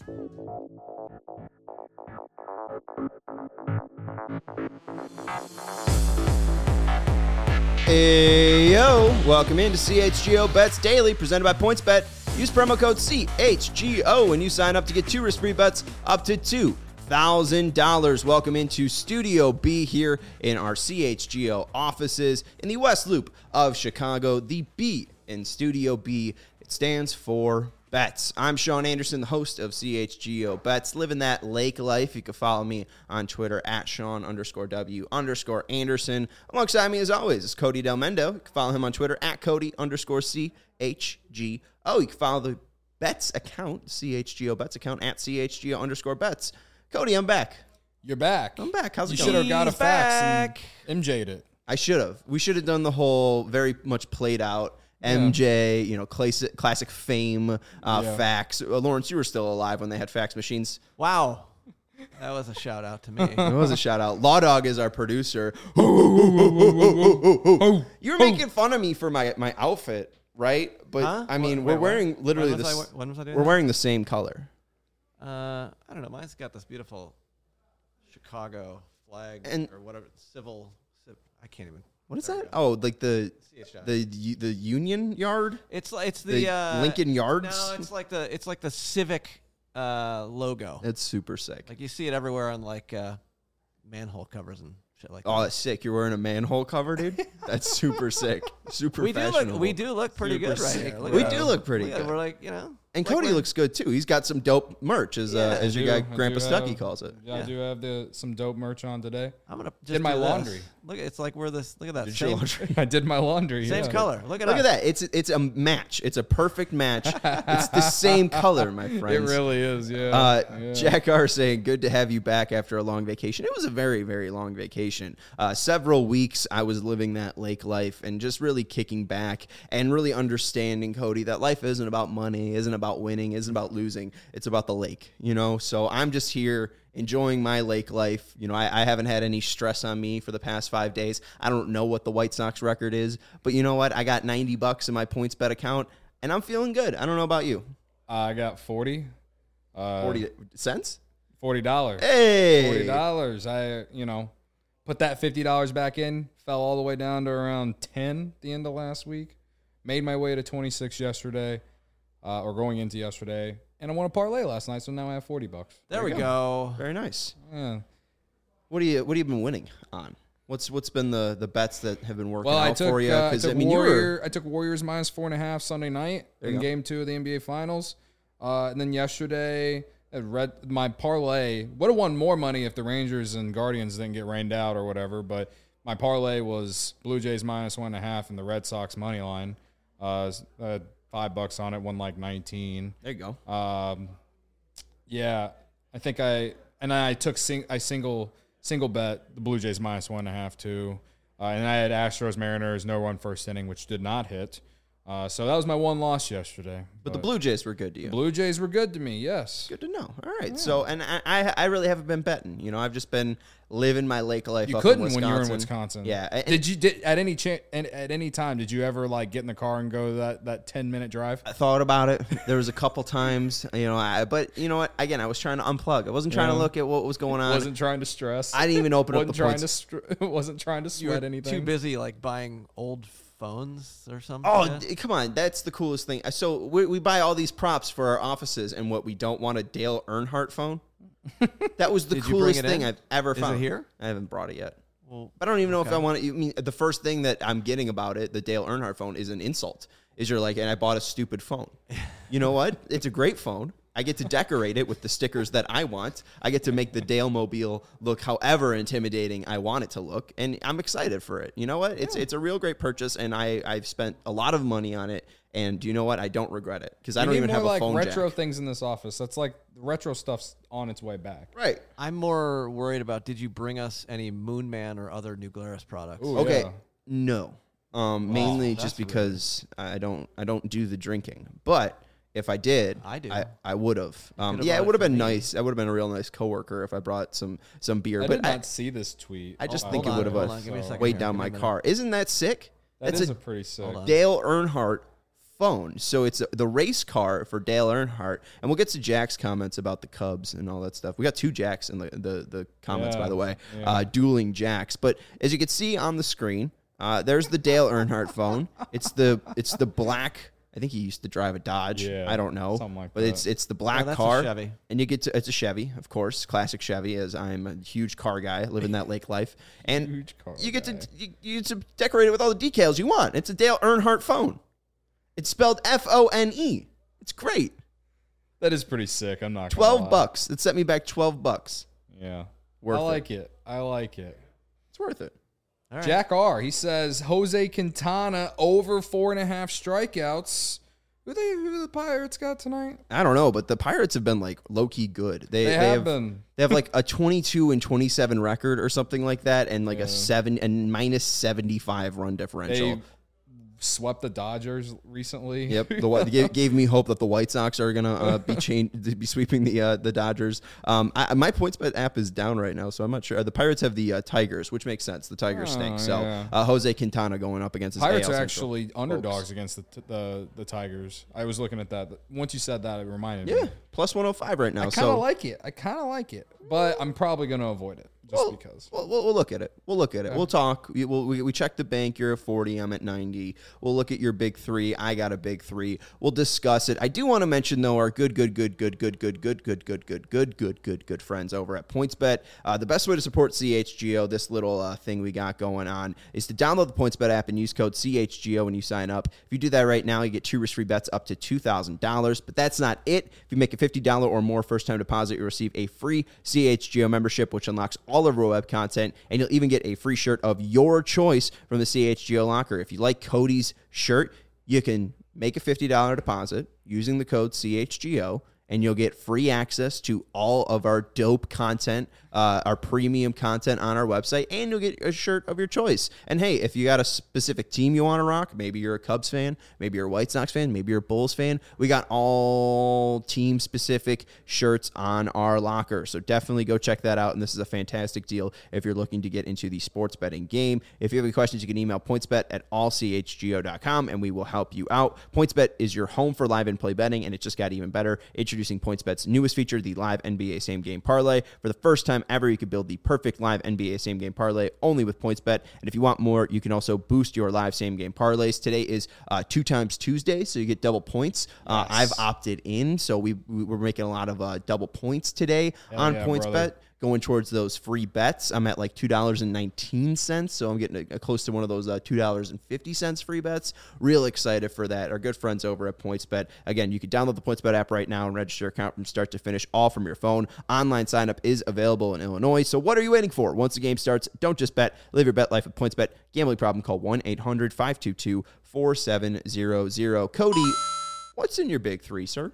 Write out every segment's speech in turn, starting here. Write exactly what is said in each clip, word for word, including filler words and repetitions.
Hey, yo, welcome into C H G O Bets Daily, presented by PointsBet. Use promo code C H G O when you sign up to get two risk-free bets up to two thousand dollars. Welcome into Studio B here in our C H G O offices in the West Loop of Chicago. The B in Studio B, it stands for Bets. I'm Sean Anderson, the host of C H G O Bets, living that lake life. You can follow me on Twitter at Sean underscore W underscore Anderson. Alongside me, as always, is Cody Del Mendo. You can follow him on Twitter at Cody underscore C H G O. You can follow the Bets account, C H G O Bets account, at C H G O underscore Bets. Cody, I'm back. You're back. I'm back. How's it you going? You should have got a He's fax back. and M J'd it. I should have. We should have done the whole very much played out M J, you know, classic, classic fame uh, yeah. fax. Uh, Lawrence, you were still alive when they had fax machines. Wow. That was a shout out to me. It was a shout out. Law Dog is our producer. You were making fun of me for my, my outfit, right? But Huh? I mean, Wait, we're wearing when? literally when was this. I, when was I doing we're this? wearing the same color. Uh, I don't know. Mine's got this beautiful Chicago flag And- or whatever. Civil. civ- I can't even. What is There we that? go. Oh, like the C H I. the the Union Yard, It's like it's the the, uh, Lincoln Yards. No, it's like the it's like the Civic uh, logo. That's super sick. Like you see it everywhere on like uh, manhole covers and shit like that. Oh, that's sick. You're wearing a manhole cover, dude? That's super sick. Super we do fashionable. look we do look pretty Super good right sick, here. Look We at do that. look pretty Yeah, good. We're like you know. And like Cody we're- looks good, too. He's got some dope merch, as, uh, Yeah. as your I guy, do- I Grandpa do Stucky, have- calls it. Yeah, I Yeah. do have the some dope merch on today. I'm gonna just Did my do this. laundry. Look, it's like we're this. Look at that. Did your Same, laundry? I did my laundry. same yeah. color. Look at Look us. at that. It's it's a match. It's a perfect match. It's the same color, my It friends. really is, yeah. Uh, yeah. Jack R saying, good to have you back after a long vacation. It was a very, very long vacation. Uh, several weeks I was living that lake life and just really kicking back and really understanding, Cody, that life isn't about money, isn't about winning, isn't about losing. It's about the lake, you know? So I'm just here enjoying my lake life. You know, I, I haven't had any stress on me for the past five days. I don't know what the White Sox record is, but you know what? I got ninety bucks in my PointsBet account and I'm feeling good. I don't know about you. I got forty. Uh, forty cents? forty dollars. Hey! forty dollars. I, you know, put that fifty dollars back in, fell all the way down to around ten at the end of last week. Made my way to twenty-six yesterday, uh, or going into yesterday. And I won a parlay last night, so now I have forty bucks. There, we go. Very nice. Yeah. What do you What have you been winning on? What's What's been the, the bets that have been working Well, out I took, for you? uh, I Because took I mean, you Warrior, were I took Warriors minus four and a half Sunday night There you in go. Game Two of the N B A Finals, uh, and then yesterday I read my parlay. Would have won more money if the Rangers and Guardians didn't get rained out or whatever. But my parlay was Blue Jays minus one and a half and the Red Sox money line. Uh, uh, five bucks on it, won like nineteen. there you go. Um, yeah, I think I and I took sing, I single single bet the Blue Jays minus one and a half too, uh, and I had Astros Mariners no run first inning, which did not hit. Uh, so that was my one loss yesterday. But the Blue Jays were good to you. the Blue Jays were good to me. Yes, Good to know. All right. So, and I, I I really haven't been betting. You know, I've just been living my lake life. you up couldn't in when you were in Wisconsin. Wisconsin. Yeah. and- Did you did at any cha- at, at any time did you ever like get in the car and go that that ten minute drive? I thought about it. There was a couple times, you know, I, but you know what? Again, I was trying to unplug. I wasn't trying to Yeah. look at what was going on. Wasn't trying to stress. I didn't even open up wasn't the trying points. to str- wasn't trying to You were sweat anything. too busy like buying old phones or something. Oh, yeah? d- come on. That's the coolest thing. So we, we buy all these props for our offices, and what we don't want a Dale Earnhardt phone. That was the Did you bring coolest it thing in? I've ever Is it found. here? I haven't brought it yet. Well, I don't even know if Okay. I want to. I mean, the first thing that I'm getting about it, the Dale Earnhardt phone, is an insult. Is you're like, and I bought a stupid phone. You know what? It's a great phone. I get to decorate it with the stickers that I want. I get to make the Dale Mobile look however intimidating I want it to look, and I'm excited for it. You know what? It's it's a real great purchase, and I I've spent a lot of money on it. And you know what? I don't regret it because I We don't need even more have a like phone retro jack. things in this office. That's like retro stuff's on its way back. Right. I'm more worried about. Did you bring us any Moon Man or other New Glarus products? Ooh, Okay. yeah. No. Um, mainly that's just weird. because I don't I don't do the drinking. But if I did, I do. I, I would have. Um, could've yeah, bought it it would have for been me. nice. I would have been a real nice coworker if I brought some some beer. I but did I, not see this tweet. I just Uh, think Hold it on, would hold have on, give me a so- second weighed here, down give me my a minute. car. Isn't that sick? That That's is a a pretty sick. Hold on. Dale Earnhardt phone. So it's the race car for Dale Earnhardt. And we'll get to Jack's comments about the Cubs and all that stuff. We got two Jacks in the, the, the comments, Yeah, by the way, yeah. uh, dueling Jacks. But as you can see on the screen, uh, there's the Dale Earnhardt phone. It's the it's the black. I think he used to drive a Dodge. Yeah, I don't know. something like but that. it's it's the black Oh, that's a car. Chevy. And you get to it's a Chevy, of course, classic Chevy, as I'm a huge car guy, living that lake life. And Huge car you get guy. to you, you get to decorate it with all the decals you want. It's a Dale Earnhardt phone. It's spelled F O N E. It's great. That is pretty sick. I'm not gonna Twelve lie. bucks. It set me back twelve bucks. Yeah, Worth I it. like it. I like it. It's worth it. All right. Jack R. He says Jose Quintana over four and a half strikeouts. Who they who the Pirates got tonight? I don't know, but the Pirates have been like low key good. They, They, they have, have been. They have like a twenty-two and twenty-seven record or something like that, and like Yeah. a seven and minus seventy-five run differential. They swept the Dodgers recently. Yep, the Whi- gave, gave me hope that the White Sox are gonna uh, be change, be sweeping the uh, the Dodgers. Um, I, my PointsBet app is down right now, so I'm not sure. The Pirates have the uh, Tigers, which makes sense. The Tigers Oh, stink. So yeah. uh, Jose Quintana going up against his Pirates A L are Central actually underdogs folks. against the, t- the the Tigers. I was looking at that. Once you said that, it reminded Yeah, me. plus one oh five right now. I kind so of like it. I kind of like it, but I'm probably going to avoid it just Well, because. We'll, we'll, we'll look at it. We'll look at it. We'll talk. We, we'll, we, we check the bank. You're at forty. I'm at ninety. We'll look at your big three. I got a big three. We'll discuss it. I do want to mention, though, our good, good, good, good, good, good, good, good, good, good, good, good, good, good friends over at PointsBet. Uh, the best way to support C H G O, this little uh, thing we got going on, is to download the PointsBet app and use code C H G O when you sign up. If you do that right now, you get two risk-free bets up to two thousand dollars. But that's not it. If you make a fifty dollars or more first-time deposit, you'll receive a free C H G O membership, which unlocks all of our web content. And you'll even get a free shirt of your choice from the C H G O locker. If you like Cody's shirt, you can make a fifty dollars deposit using the code C H G O, and you'll get free access to all of our dope content, uh, our premium content on our website, and you'll get a shirt of your choice. And hey, if you got a specific team you want to rock, maybe you're a Cubs fan, maybe you're a White Sox fan, maybe you're a Bulls fan, we got all team-specific shirts on our locker. So definitely go check that out, and this is a fantastic deal if you're looking to get into the sports betting game. If you have any questions, you can email pointsbet at all c h g o dot com, and we will help you out. PointsBet is your home for live and play betting, and it just got even better. Introducing PointsBet's newest feature, the live N B A Same Game Parlay. For the first time ever, you can build the perfect live N B A Same Game Parlay only with PointsBet. And if you want more, you can also boost your live Same Game Parlays. Today is uh, two times Tuesday, so you get double points. Uh, Yes. I've opted in, so we, we we're making a lot of uh, double points today Hell on yeah, PointsBet. brother. Going towards those free bets. I'm at like two dollars and nineteen cents, so I'm getting a, a close to one of those uh, two dollars and fifty cents free bets. Real excited for that. Our good friends over at PointsBet. Again, you can download the PointsBet app right now and register your account from start to finish, all from your phone. Online sign up is available in Illinois, so what are you waiting for? Once the game starts, don't just bet. Live your bet life at PointsBet. Gambling problem, call one eight hundred five two two four seven zero zero. Cody, what's in your big three, sir?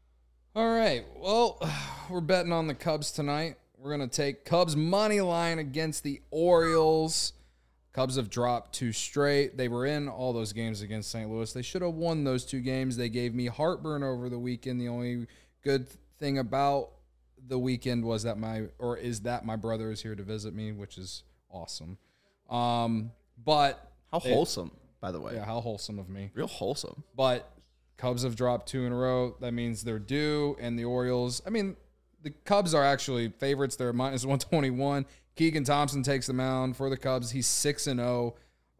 All right. Well, we're betting on the Cubs tonight. We're going to take Cubs money line against the Orioles. Cubs have dropped two straight. They were in all those games against Saint Louis. They should have won those two games. They gave me heartburn over the weekend. The only good thing about the weekend was that my, or is that my brother is here to visit me, which is awesome. Um, but How they- wholesome, by the way. yeah, how wholesome of me. Real wholesome. But Cubs have dropped two in a row. That means they're due. And the Orioles, I mean, the Cubs are actually favorites. They're minus one twenty-one. Keegan Thompson takes the mound for the Cubs. He's six and oh.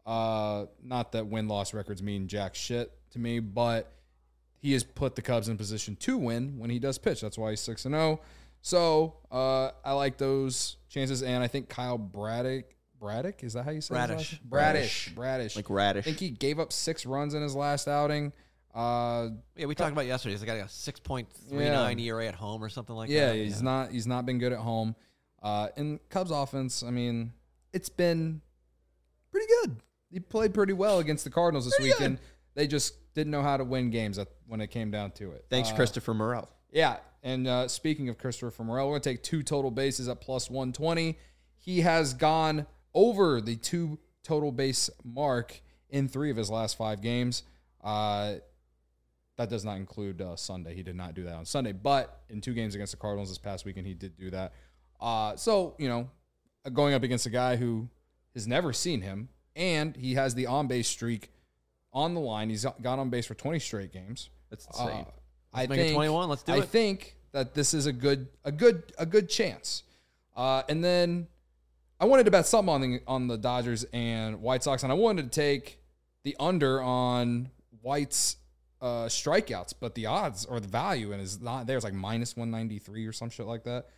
Uh, not that win-loss records mean jack shit to me, but he has put the Cubs in position to win when he does pitch. That's why he's six and oh. So uh, I like those chances. And I think Kyle Braddock, Braddock, is that how you say his Bradish. last name? Bradish. Bradish. Like radish. I think he gave up six runs in his last outing. Uh, Yeah, we talked about yesterday. He's got a six point three nine E R A at home or something like yeah, that. he's not he's not been good at home. Uh, and Cubs offense, I mean, it's been pretty good. He played pretty well against the Cardinals this Pretty weekend. They just didn't know how to win games at, when it came down to it. Thanks, Uh, Christopher Morel. Yeah, and uh, speaking of Christopher Morel, we're going to take two total bases at plus one twenty. He has gone over the two total base mark in three of his last five games. Uh, that does not include uh, Sunday. He did not do that on Sunday, but in two games against the Cardinals this past weekend, he did do that. Uh, so, you know, going up against a guy who has never seen him, and he has the on-base streak on the line. He's got on base for twenty straight games. That's insane. Uh, I make it think twenty-one. Let's do I it. think that this is a good, a good, a good chance. Uh, and then I wanted to bet something on the on the Dodgers and White Sox, and I wanted to take the under on White's uh, strikeouts, but the odds or the value and is not there. It's like minus one ninety-three or some shit like that.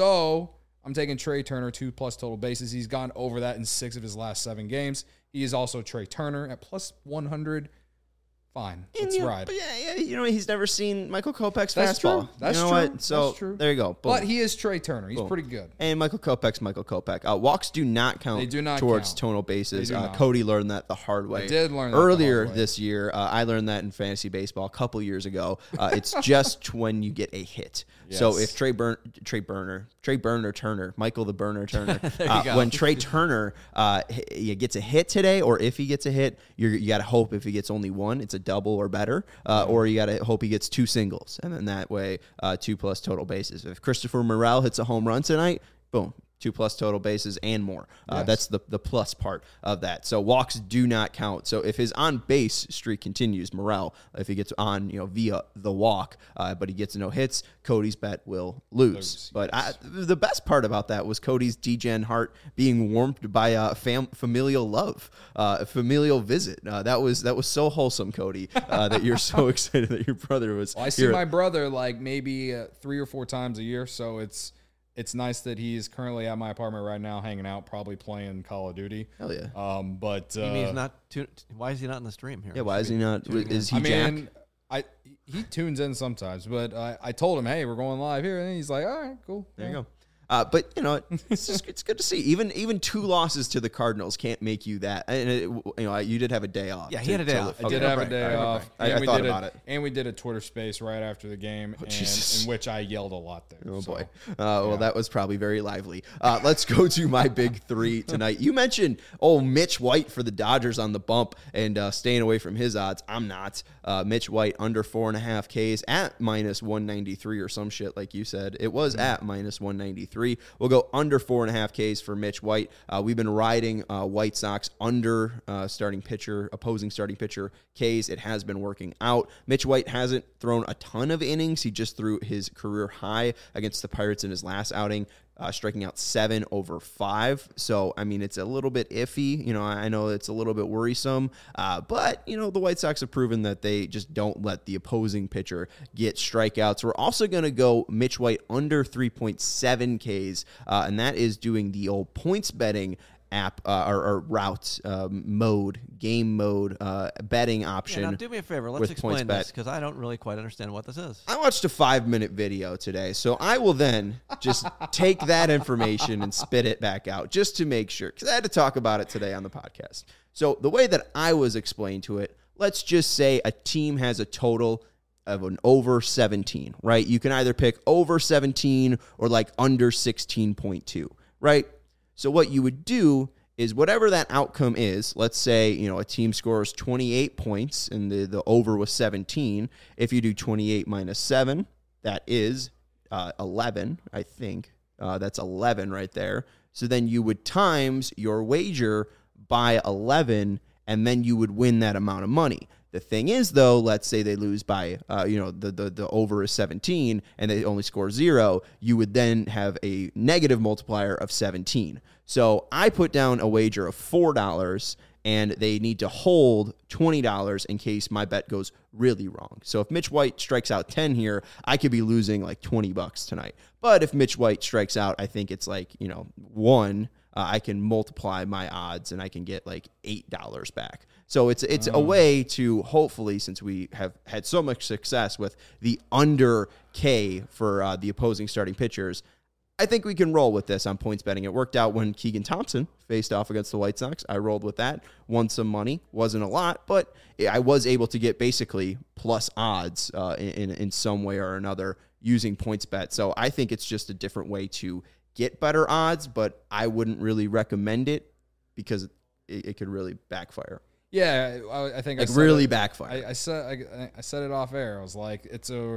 So I'm taking Trey Turner two plus total bases. He's gone over that in six of his last seven games. He is also Trey Turner at plus one hundred. Fine, let's you know, ride. But yeah, yeah, you know, he's never seen Michael Kopech's That's fastball. true. That's you know true. What? So That's true. there you go. Boom. But he is Trey Turner. He's Boom. pretty good. And Michael Kopech's Michael Kopech. Uh, walks do not count They do not towards count. tonal bases. They do Uh, not. Cody learned that the hard way. I did learn that the Earlier hard way. this year. Uh, I learned that in fantasy baseball a couple years ago. Uh, it's just when you get a hit. So Yes. if Trey Burn, Trey Burner, Trey Burner Turner, Michael the Burner Turner, you uh, go. when Trey Turner uh, he gets a hit today, or if he gets a hit, you're, you got to hope if he gets only one, it's a double or better, uh, or you got to hope he gets two singles, and then that way uh, two plus total bases. If Christopher Morel hits a home run tonight, boom. Two plus total bases and more. Uh, Yes. That's the, the plus part of that. So walks do not count. So if his on base streak continues, Morel, if he gets on, you know, via the walk, uh, but he gets no hits, Cody's bet will lose. Lose, but I, the best part about that was Cody's D-Gen heart being warmed by uh, fam- familial love, uh, a familial visit. Uh, that was that was so wholesome, Cody, uh, that you're so excited that your brother was. Well, I see here. my brother like maybe uh, three or four times a year, so it's it's nice that he's currently at my apartment right now, hanging out, probably playing Call of Duty. Hell yeah. Um, but uh, You mean he's not? Tu- why is he not in the stream here? Yeah, why is he not? Is he I Jack? mean, I he tunes in sometimes, but I, I told him, hey, we're going live here, and he's like, all right, cool. There you go. Uh, but you know, it's just it's good to see. Even even two losses to the Cardinals can't make you that. And it, you know, you did have a day off. Yeah, he to- had a day to- off. I did okay. have a break. day I have a off. break. I- and I we thought did about a, it. Oh, And we did a Twitter space right after the game, and, Jesus. in which I yelled a lot there. Oh so. boy. Uh, well, that was probably very lively. Uh, let's go to my big three tonight. You mentioned oh Mitch White for the Dodgers on the bump and uh, staying away from his odds. I'm not. Uh, Mitch White under four and a half Ks at minus one ninety-three or some shit like you said. It was Mm-hmm. at minus one ninety-three. We'll go under four and a half Ks for Mitch White. Uh, we've been riding uh, White Sox under uh, starting pitcher, opposing starting pitcher Ks. It has been working out. Mitch White hasn't thrown a ton of innings. He just threw his career high against the Pirates in his last outing. Uh, striking out seven over five. So, I mean, it's a little bit iffy. You know, I know it's a little bit worrisome. Uh, but, you know, the White Sox have proven that they just don't let the opposing pitcher get strikeouts. We're also going to go Mitch White under three point seven Ks, uh, and that is doing the old points betting app uh, or, or route um, mode, game mode, uh, betting option. Yeah, now do me a favor. Let's with explain PointsBet. this because I don't really quite understand what this is. I watched a five minute video today, so I will then just take that information and spit it back out just to make sure, because I had to talk about it today on the podcast. So the way that I was explained to it, let's just say a team has a total of an over seventeen, right? You can either pick over seventeen or like under sixteen point two, right? So what you would do is whatever that outcome is, let's say, you know, a team scores twenty-eight points and the, the over was seventeen. If you do twenty-eight minus seven, that is uh, eleven, I think. Uh, that's eleven right there. So then you would times your wager by eleven, and then you would win that amount of money. The thing is, though, let's say they lose by, uh, you know, the, the the over is seventeen and they only score zero, you would then have a negative multiplier of seventeen. So I put down a wager of four dollars, and they need to hold twenty dollars in case my bet goes really wrong. So if Mitch White strikes out ten here, I could be losing like twenty bucks tonight. But if Mitch White strikes out, I think it's like, you know, one, uh, I can multiply my odds and I can get like eight dollars back. So it's it's a way to hopefully, since we have had so much success with the under K for uh, the opposing starting pitchers, I think we can roll with this on points betting. It worked out when Keegan Thompson faced off against the White Sox. I rolled with that, won some money. Wasn't a lot, but I was able to get basically plus odds uh, in, in some way or another using PointsBet. So I think it's just a different way to get better odds, but I wouldn't really recommend it because it, it could really backfire. Yeah, I, I think Like I said really it, backfire. I, I said I, I said it off air. I was like, it's a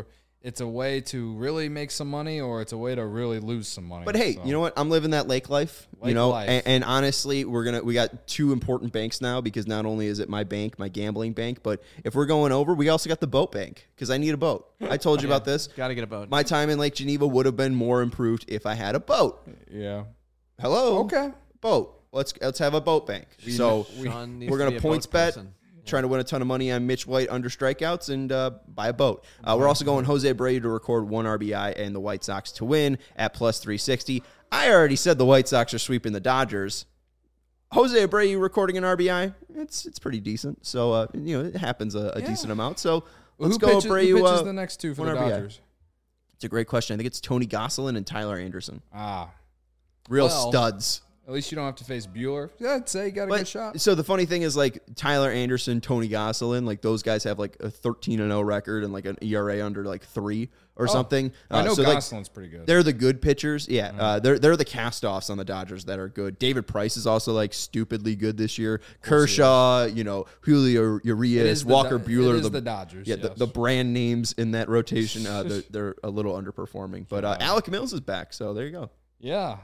it's a way to really make some money or it's a way to really lose some money. But hey, So, you know what? I'm living that lake life. you Lake know, life. And, and honestly, we're gonna we got two important banks now because not only is it my bank, my gambling bank, but if we're going over, we also got the boat bank because I need a boat. I told you about this. Got to get a boat. My time in Lake Geneva would have been more improved if I had a boat. Yeah. Hello. Okay. Boat. Let's let's have a boat bank. So Sean needs we're to gonna be a points boat bet. person. Trying to win a ton of money on Mitch White under strikeouts and uh, buy a boat. Uh, we're also going Jose Abreu to record one R B I and the White Sox to win at plus three sixty. I already said the White Sox are sweeping the Dodgers. Jose Abreu recording an R B I, it's it's pretty decent. So, uh, you know, it happens a, a Yeah. decent amount. So Well, let's who go pitches, Abreu. who pitches uh, the next two for one the R B I. Dodgers? It's a great question. I think it's Tony Gosselin and Tyler Anderson. Ah. Real Well, studs. At least you don't have to face Bueller. Yeah, I'd say you got a good But, shot. so the funny thing is, like, Tyler Anderson, Tony Gosselin, like, those guys have, like, a thirteen and oh record and, like, an E R A under, like, three or Oh, something. I Uh, know so, like, Gosselin's pretty good. they're the good pitchers. Yeah, uh, they're they're the cast-offs on the Dodgers that are good. David Price is also, like, stupidly good this year. Kershaw, you know, Julio It Urias, is the Walker Do- Bueller. It is the, the Dodgers. yeah, yes. the, the brand names in that rotation, uh, they're, they're a little underperforming. But uh, Alec Mills is back, so there you go. yeah.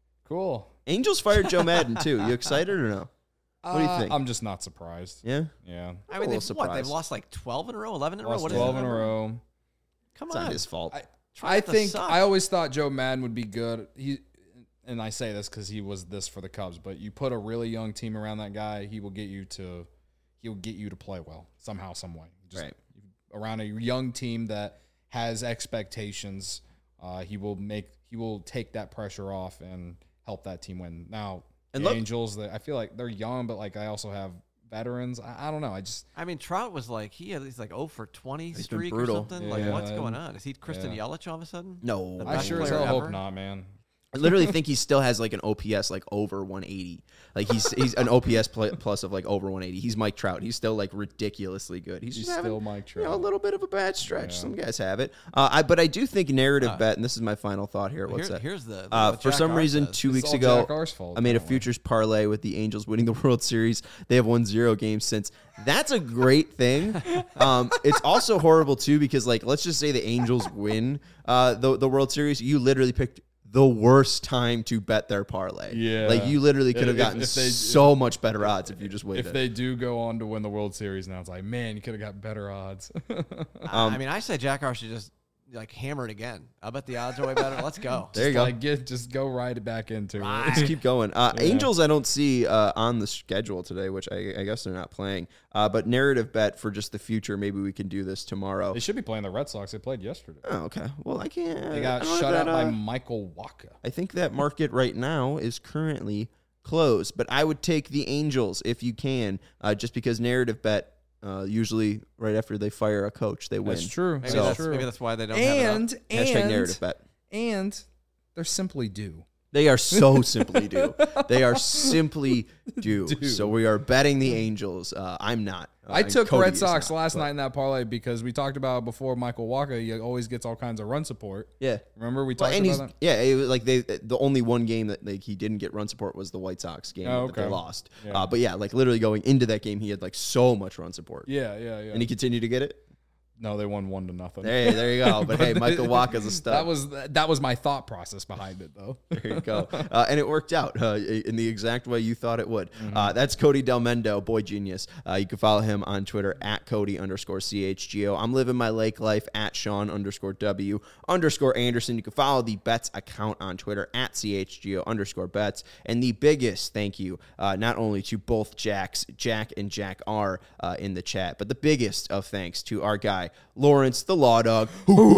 Cool. Angels fired Joe Madden, too. You excited or no? What do you Uh, think? I'm just not surprised. Yeah? Yeah. I a mean, little they've, what? They've surprised. lost like twelve in a row, eleven in a row. Lost What is twelve it? in a row. Come It's on. not his fault. I, Try I not to think suck. I always thought Joe Madden would be good. He and I say this because he was this for the Cubs. But you put a really young team around that guy, he will get you to he will get you to play well somehow, some way. Just Right. around a young team that has expectations, uh, he will make he will take that pressure off and help that team win. Now And the look- Angels, they, I feel like they're young, but like I also have veterans. I, I don't know. I just I mean, Trout was like he had he's like oh for twenty been streak or brutal. something. Yeah. Like what's going on? Is he Kristen Yeah. Yelich all of a sudden? No. The I best sure as player hell hope ever? not, man. I literally think he still has like an O P S like over one eighty. Like he's he's an O P S pl- plus of like over one eighty. He's Mike Trout. He's still like ridiculously good. He's, He's just having, still Mike you know, a Trout. little bit of a bad stretch. Yeah. Some guys have it. Uh, I but I do think narrative Uh, bet, and this is my final thought here. What's Here- that? Here's the, Uh, what for Jack some R reason, says. two It's weeks all ago, Jack R's fault, I made a apparently. futures parlay with the Angels winning the World Series. They have won zero games since. That's a great thing. Um, it's also horrible too because, like, let's just say the Angels win uh, the the World Series. You literally picked the worst time to bet their parlay. Yeah. like you literally could have If- gotten if they- so much better odds if you just waited. If they do go on to win the World Series now, it's like, man, you could have got better odds. I- um, I mean, I say Jack R should just like hammer it again. I bet the odds are way better. Let's go. there you go. Like, get, just go right it back into Just it. keep going. Uh, Yeah. Angels, I don't see uh, on the schedule today, which I, I guess they're not playing. Uh, but narrative bet for just the future. Maybe we can do this tomorrow. They should be playing the Red Sox. They played yesterday. Oh, okay. Well, I can't. They got I don't know shut if out that, by uh, Michael Wacha. I think that market right now is currently closed, but I would take the Angels if you can, uh, just because narrative bet. Uh, usually, right after they fire a coach, they win. That's true. Maybe, So- that's, true. maybe that's why they don't have it and up. Hashtag and narrative bet. and they're simply due. They are so simply due. They are simply due. Due. So we are betting the Angels. Uh, I'm not. Uh, I and took Cody Red is Sox not, last but- night in that parlay because we talked about before Michael Wacha. He always gets all kinds of run support. Yeah. Remember we Well, talked and he's about that? yeah, it was like they the only one game that like he didn't get run support was the White Sox game Oh, that they okay. lost. Yeah. Uh, but yeah, like literally going into that game, he had like so much run support, Yeah, yeah, yeah. and he continued to get it. no, they won one to nothing. There, there you go. But hey, Michael Wacha's a stud. That was that was my thought process behind it, though. There you go. Uh, and it worked out uh, in the exact way you thought it would. Mm-hmm. Uh, that's Cody Del Mendo, boy genius. Uh, you can follow him on Twitter at Cody underscore C H G O. I'm living my lake life at Sean underscore W underscore Anderson. You can follow the Bets account on Twitter at C H G O underscore Bets. And the biggest thank you, uh, not only to both Jacks, Jack and Jack R uh, in the chat, but the biggest of thanks to our guy, Lawrence, the Law Dog,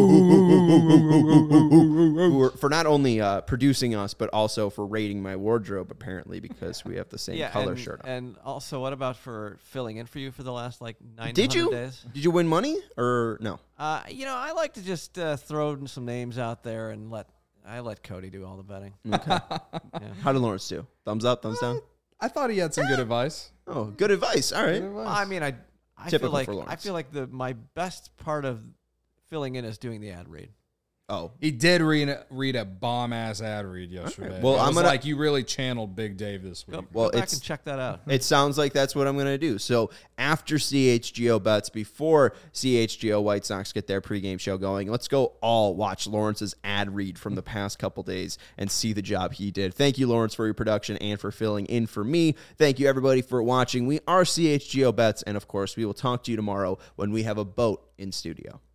who were, for not only uh, producing us, but also for rating my wardrobe, apparently, because we have the same Yeah, color and, shirt on. and also, what about for filling in for you for the last like nine Did you? days? Did you win money or no? Uh, you know, I like to just uh, throw some names out there and let I let Cody do all the betting. Okay. How did Lawrence do? Thumbs up, thumbs down? I thought he had some good advice. Oh, good advice. All right. Good advice. Well, I mean, I I Typical feel like for I Lawrence. feel like the my best part of filling in is doing the ad read. Oh. He did read read a bomb ass ad read yesterday. Well, I I'm was gonna- like, you really channeled Big Dave this week. Go, Well, go back it's- and check that out. It sounds like that's what I'm going to do. So after C H G O bets, before C H G O White Sox get their pregame show going, let's go all watch Lawrence's ad read from the past couple days and see the job he did. Thank you, Lawrence, for your production and for filling in for me. Thank you, everybody, for watching. We are C H G O bets, and of course, we will talk to you tomorrow when we have a boat in studio.